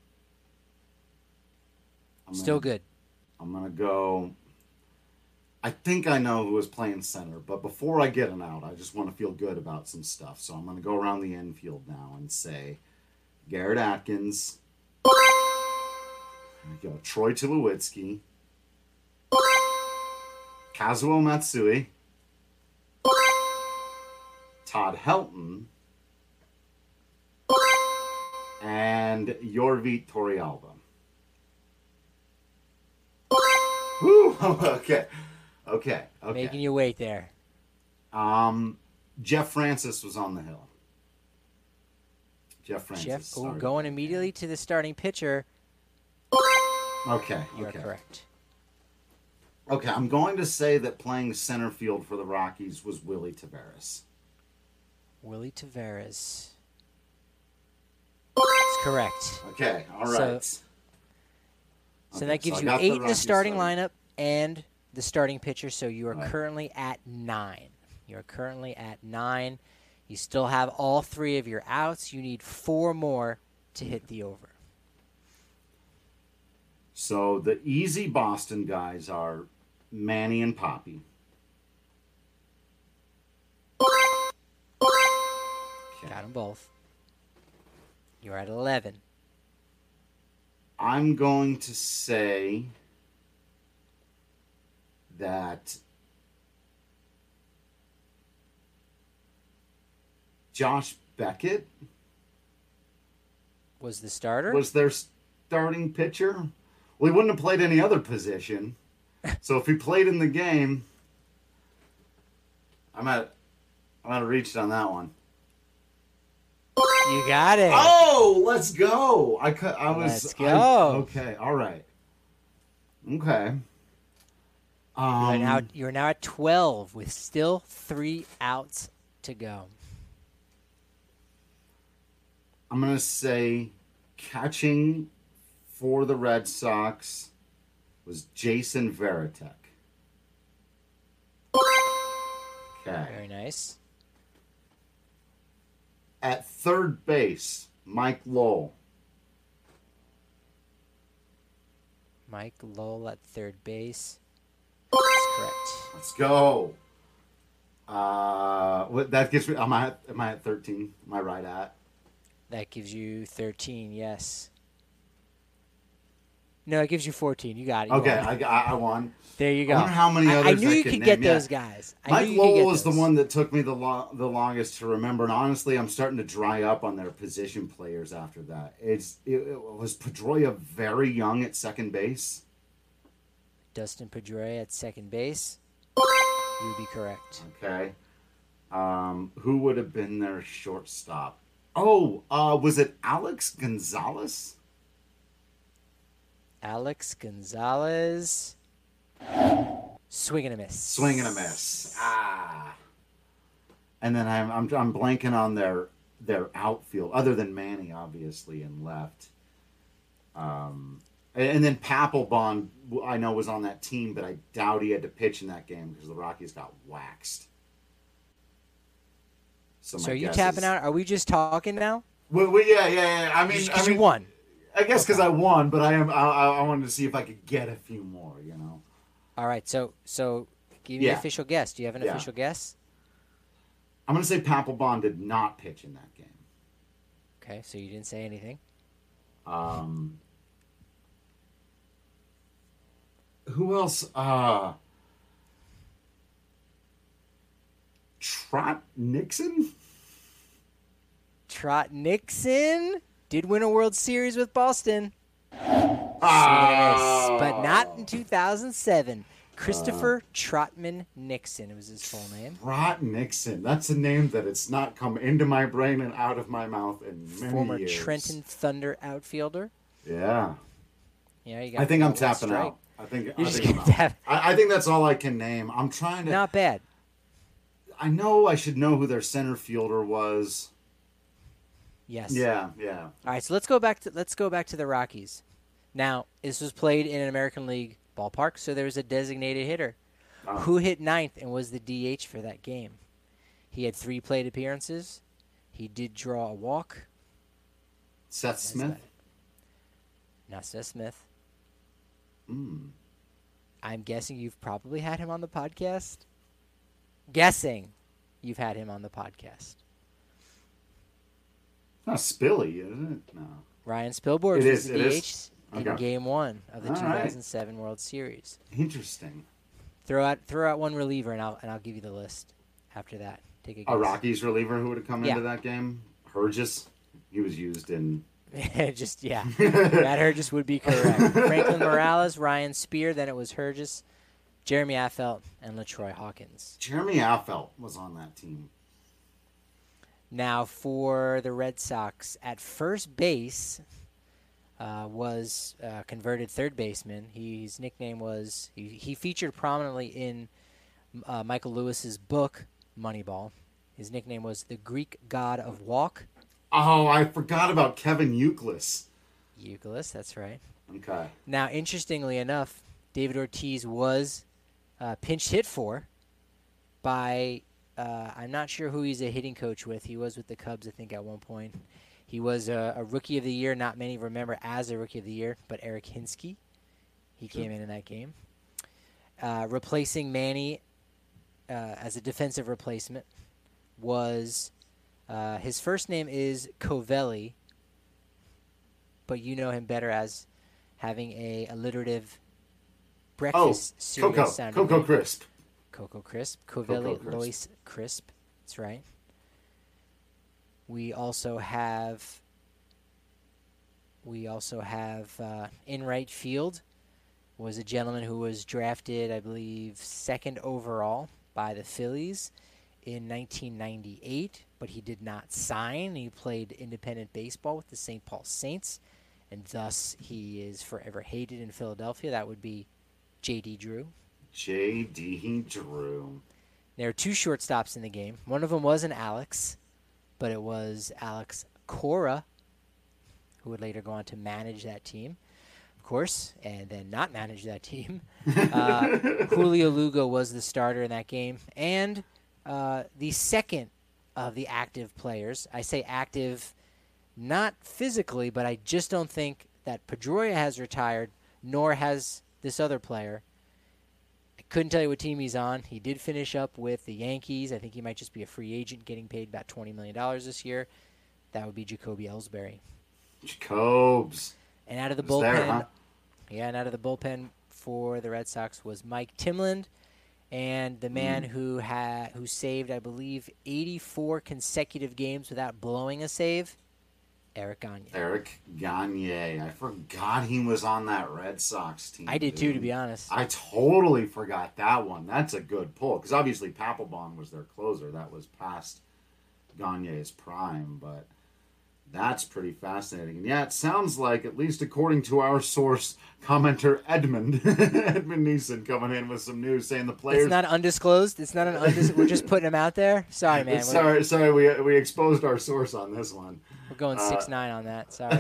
Still good. I'm going to go, I think I know who was playing center, but before I get an out, I just want to feel good about some stuff. So I'm going to go around the infield now and say Garrett Atkins. There we go. Troy Tulowitzki. Kazuo Matsui. Todd Helton. And Yorvi Torrealba. Woo! Okay. Making you wait there. Jeff Francis was on the hill. Jeff Francis. Going immediately to the starting pitcher. Okay. You're correct. Okay, I'm going to say that playing center field for the Rockies was Willie Taveras. Willie Taveras. That's correct. Okay, all right. So that gives you 8 in the starting lineup and the starting pitcher, so you are currently at 9. You're currently at 9. You still have all 3 of your outs. You need 4 more to hit the over. So the easy Boston guys are Manny and Poppy. Okay. Got them both. You're at 11. I'm going to say that Josh Beckett was the starter? Was their starting pitcher? Well, he wouldn't have played any other position. So if he played in the game, I'm at reached on that one. You got it. Oh, let's go. I was. Let's go. Okay. All right. Okay. You're now at 12 with still 3 outs to go. I'm gonna say catching for the Red Sox was Jason Varitek. Okay. Very nice. At third base, Mike Lowell. Mike Lowell at third base. That's correct. Let's go. What that gives me? Am I at 13? Am I right at? That gives you 13, yes. No, it gives you 14. You got it. You Okay, won. I won. There you go. I wonder how many others I knew I you could could name, get yeah. those guys. Mike Lowell was the one that took me the longest to remember, and honestly, I'm starting to dry up on their position players after that. It was Pedroia very young at second base. Dustin Pedroia at second base. You would be correct. Okay. Who would have been their shortstop? Oh, was it Alex Gonzalez? Alex Gonzalez. Swing and a miss. Swing and a miss. And then I'm blanking on their outfield, other than Manny, obviously, and left. And then Papelbon, I know, was on that team, but I doubt he had to pitch in that game because the Rockies got waxed. So are you tapping out? Are we just talking now? Well, yeah. I mean, you won. I guess because I won, but I wanted to see if I could get a few more, you know. All right, so give me an official guess. Do you have an official guess? I'm going to say Papelbon did not pitch in that game. Okay, so you didn't say anything. Who else? Trot Nixon? Trot Nixon did win a World Series with Boston. But not in 2007. Christopher Trotman Nixon. It was his full name. Trot Nixon. That's a name that it's not come into my brain and out of my mouth in many Former years. Trenton Thunder outfielder. Yeah. Yeah, you got. I think I'm one tapping strike. out. I think You're I think that's all I can name. I'm trying to. Not bad. I know I should know who their center fielder was. Yes. Yeah. All right, so let's go back to the Rockies. Now, this was played in an American League ballpark, so there was a designated hitter who hit ninth and was the DH for that game. He had 3 plate appearances. He did draw a walk. Seth Smith? Not Seth Smith. Mm. I'm guessing you've probably had him on the podcast. Guessing you've had him on the podcast. Not Spilly, is it? No. Ryan Spilborghs was the DH in Okay. Game 1 of the All 2007 World Series. Interesting. Throw out one reliever, and I'll give you the list after that. Take a guess. A Rockies reliever who would have come into that game? Hergis? He was used in... Matt Hergis would be correct. Franklin Morales, Ryan Spear, then it was Hergis, Jeremy Affeldt, and LaTroy Hawkins. Jeremy Affeldt was on that team. Now for the Red Sox, at first base was converted third baseman. His nickname was, he featured prominently in Michael Lewis's book, Moneyball. His nickname was the Greek God of Walk. Oh, I forgot about Kevin Youkilis. Youkilis, that's right. Okay. Now, interestingly enough, David Ortiz was pinch hit for by, I'm not sure who he's a hitting coach with. He was with the Cubs, I think, at one point. He was a Rookie of the Year. Not many remember as a Rookie of the Year, but Eric Hinsky. He came in that game. Replacing Manny as a defensive replacement was... his first name is Covelli, but you know him better as having a alliterative breakfast cereal sounding Cocoa name. Crisp. Cocoa Crisp. Covelli Crisp. Lois Crisp. That's right. We also have in right field was a gentleman who was drafted, I believe, 2nd overall by the Phillies in 1998, but he did not sign. He played independent baseball with the St. Paul Saints, and thus he is forever hated in Philadelphia. That would be J.D. Drew. J.D. Drew. There are 2 shortstops in the game. One of them was an Alex, but it was Alex Cora, who would later go on to manage that team, of course, and then not manage that team. Julio Lugo was the starter in that game. And the second of the active players, I say active not physically, but I just don't think that Pedroia has retired, nor has this other player. I couldn't tell you what team he's on. He did finish up with the Yankees. I think he might just be a free agent getting paid about $20 million this year. That would be Jacoby Ellsbury. Jacobs. And out of the Was bullpen, there, huh? yeah, and out of the bullpen for the Red Sox was Mike Timlin, and the man who saved, I believe, 84 consecutive games without blowing a save, Eric Gagne. Eric Gagne. I forgot he was on that Red Sox team. I did too, to be honest. I totally forgot that one. That's a good pull, because obviously Papelbon was their closer. That was past Gagne's prime, but that's pretty fascinating. And yeah, it sounds like, at least according to our source commenter Edmund Neeson coming in with some news saying the players... It's not undisclosed? It's not an undisclosed... We're just putting him out there? Sorry, man. Sorry, we exposed our source on this one. We're going 6'9" on that. Sorry.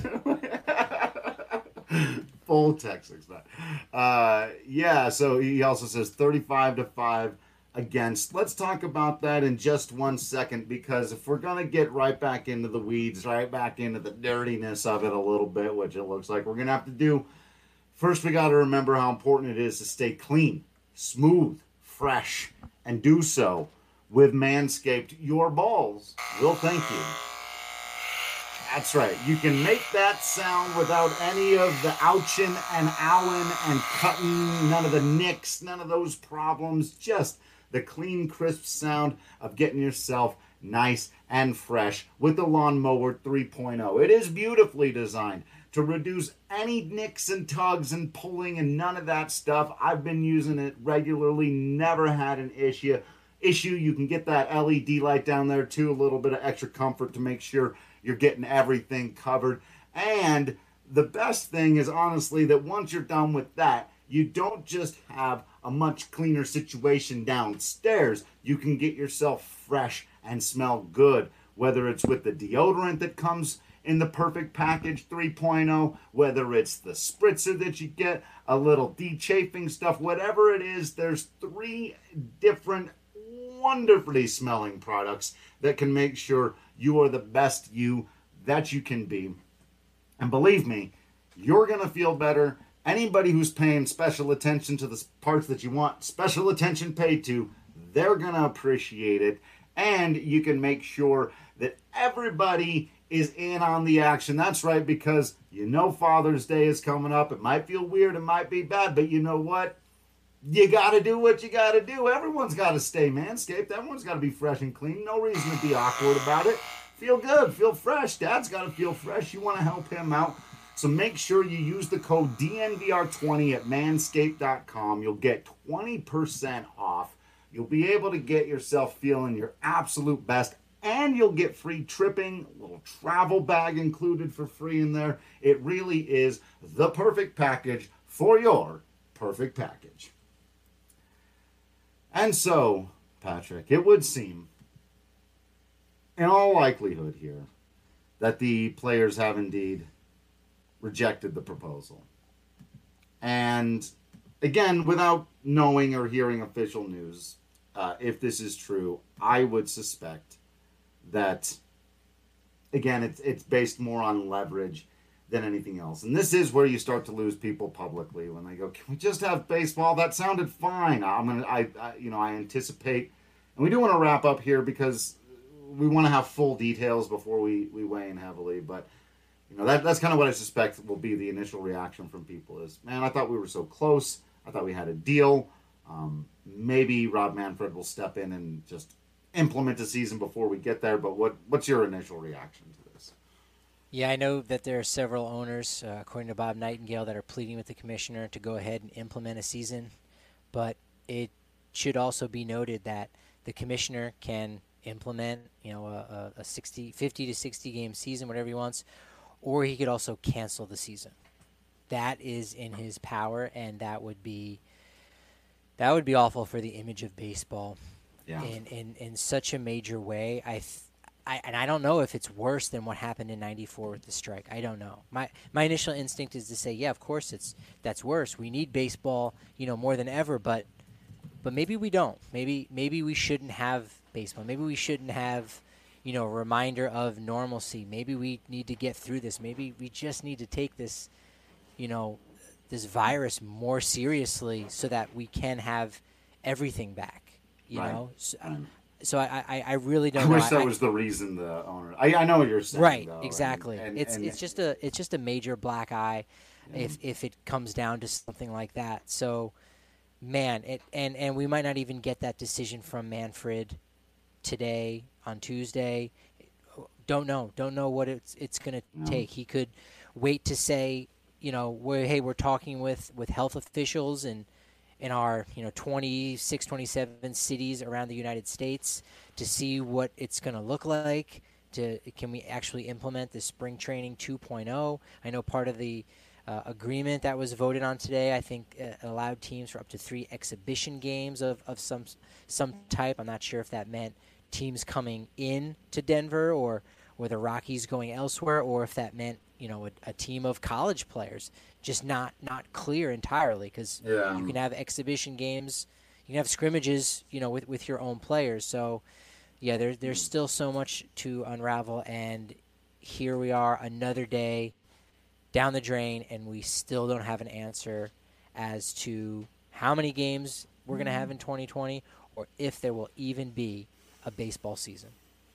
Full text 6'9". Yeah, so he also says 35-5 against. Let's talk about that in just 1 second, because if we're going to get right back into the weeds, right back into the dirtiness of it a little bit, which it looks like we're going to have to do, first we got to remember how important it is to stay clean, smooth, fresh, and do so with Manscaped. Your balls will thank you. That's right. You can make that sound without any of the ouching and owing and cutting, none of the nicks, none of those problems. Just the clean, crisp sound of getting yourself nice and fresh with the Lawnmower 3.0. It is beautifully designed to reduce any nicks and tugs and pulling and none of that stuff. I've been using it regularly, never had an issue. You can get that LED light down there too, a little bit of extra comfort to make sure you're getting everything covered. And the best thing is, honestly, that once you're done with that, you don't just have a much cleaner situation downstairs. You can get yourself fresh and smell good, whether it's with the deodorant that comes in the Perfect Package 3.0, whether it's the spritzer that you get, a little de-chafing stuff, whatever it is, there's 3 different wonderfully smelling products that can make sure you are the best you that you can be. And believe me, you're going to feel better. Anybody who's paying special attention to the parts that you want special attention paid to, they're going to appreciate it. And you can make sure that everybody is in on the action. That's right, because you know Father's Day is coming up. It might feel weird, it might be bad, but you know what? You got to do what you got to do. Everyone's got to stay Manscaped. Everyone's got to be fresh and clean. No reason to be awkward about it. Feel good. Feel fresh. Dad's got to feel fresh. You want to help him out. So make sure you use the code DNVR20 at manscaped.com. You'll get 20% off. You'll be able to get yourself feeling your absolute best. And you'll get free tripping, a little travel bag included for free in there. It really is the perfect package for your perfect package. And so, Patrick, it would seem, in all likelihood here, that the players have indeed rejected the proposal. And again, without knowing or hearing official news, if this is true, I would suspect that, again, it's based more on leverage than anything else. And this is where you start to lose people publicly when they go, "Can we just have baseball? That sounded fine." I anticipate, and we do want to wrap up here because we want to have full details before we weigh in heavily. But that's kind of what I suspect will be the initial reaction from people is, "Man, I thought we were so close. I thought we had a deal. Maybe Rob Manfred will step in and just implement a season before we get there." But what's your initial reaction to this? Yeah, I know that there are several owners, according to Bob Nightingale, that are pleading with the commissioner to go ahead and implement a season. But it should also be noted that the commissioner can implement, a 50 to 60 game season, whatever he wants, or he could also cancel the season. That is in his power, and that would be awful for the image of baseball in such a major way. I don't know if it's worse than what happened in '94 with the strike. I don't know. My initial instinct is to say, yeah, of course that's worse. We need baseball, more than ever, but maybe we don't. Maybe we shouldn't have baseball. Maybe we shouldn't have, a reminder of normalcy. Maybe we need to get through this. Maybe we just need to take this, this virus more seriously so that we can have everything back. You know. So I really don't know. I wish that was the reason the owner. I know what you're saying. Right, though, exactly. and It's just a major black eye if it comes down to something like that. So, man, and we might not even get that decision from Manfred today on Tuesday. Don't know what it's going to take. He could wait to say, we're talking with health officials and in our 26, 27 cities around the United States to see what it's going to look like. Can we actually implement the spring training 2.0? I know part of the agreement that was voted on today, I think, allowed teams for up to 3 exhibition games of some type. I'm not sure if that meant teams coming in to Denver or the Rockies going elsewhere, or if that meant a team of college players. Just not clear entirely, because you can have exhibition games, you can have scrimmages, with your own players. So, yeah, there's still so much to unravel, and here we are, another day down the drain, and we still don't have an answer as to how many games we're going to have in 2020, or if there will even be a baseball season.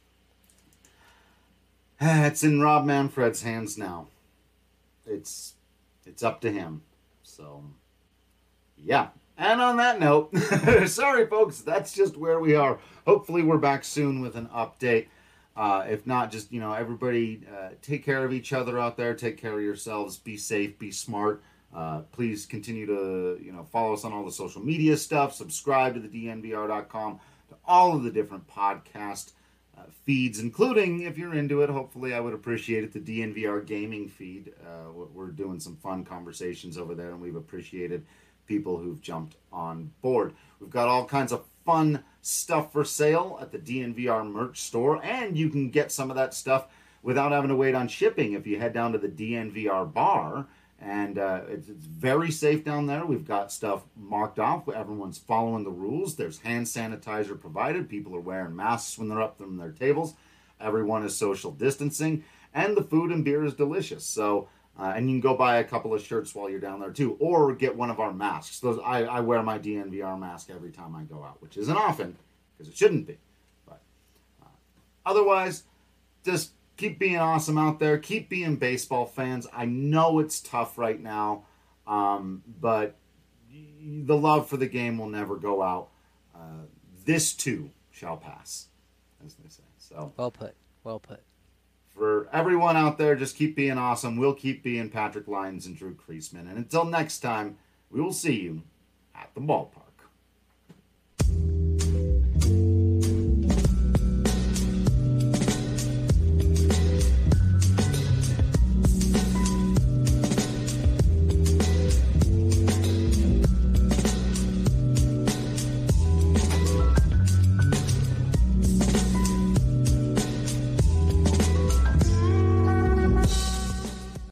It's in Rob Manfred's hands now. It's up to him. So, yeah. And on that note, sorry, folks, that's just where we are. Hopefully we're back soon with an update. If not, just, everybody take care of each other out there. Take care of yourselves. Be safe. Be smart. Please continue to, follow us on all the social media stuff. Subscribe to the DNVR.com, to all of the different podcast feeds, including, if you're into it, hopefully I would appreciate it, the DNVR gaming feed. We're doing some fun conversations over there, and we've appreciated people who've jumped on board. We've got all kinds of fun stuff for sale at the DNVR merch store, and you can get some of that stuff without having to wait on shipping if you head down to the DNVR bar. And it's very safe down there. We've got stuff marked off. Everyone's following the rules. There's hand sanitizer provided. People are wearing masks when they're up from their tables. Everyone is social distancing. And the food and beer is delicious. So, and you can go buy a couple of shirts while you're down there too. Or get one of our masks. I wear my DNVR mask every time I go out, which isn't often, because it shouldn't be. But otherwise, just keep being awesome out there. Keep being baseball fans. I know it's tough right now, but the love for the game will never go out. This too shall pass, as they say. So well put. Well put. For everyone out there, just keep being awesome. We'll keep being Patrick Lyons and Drew Creasman. And until next time, we will see you at the ballpark.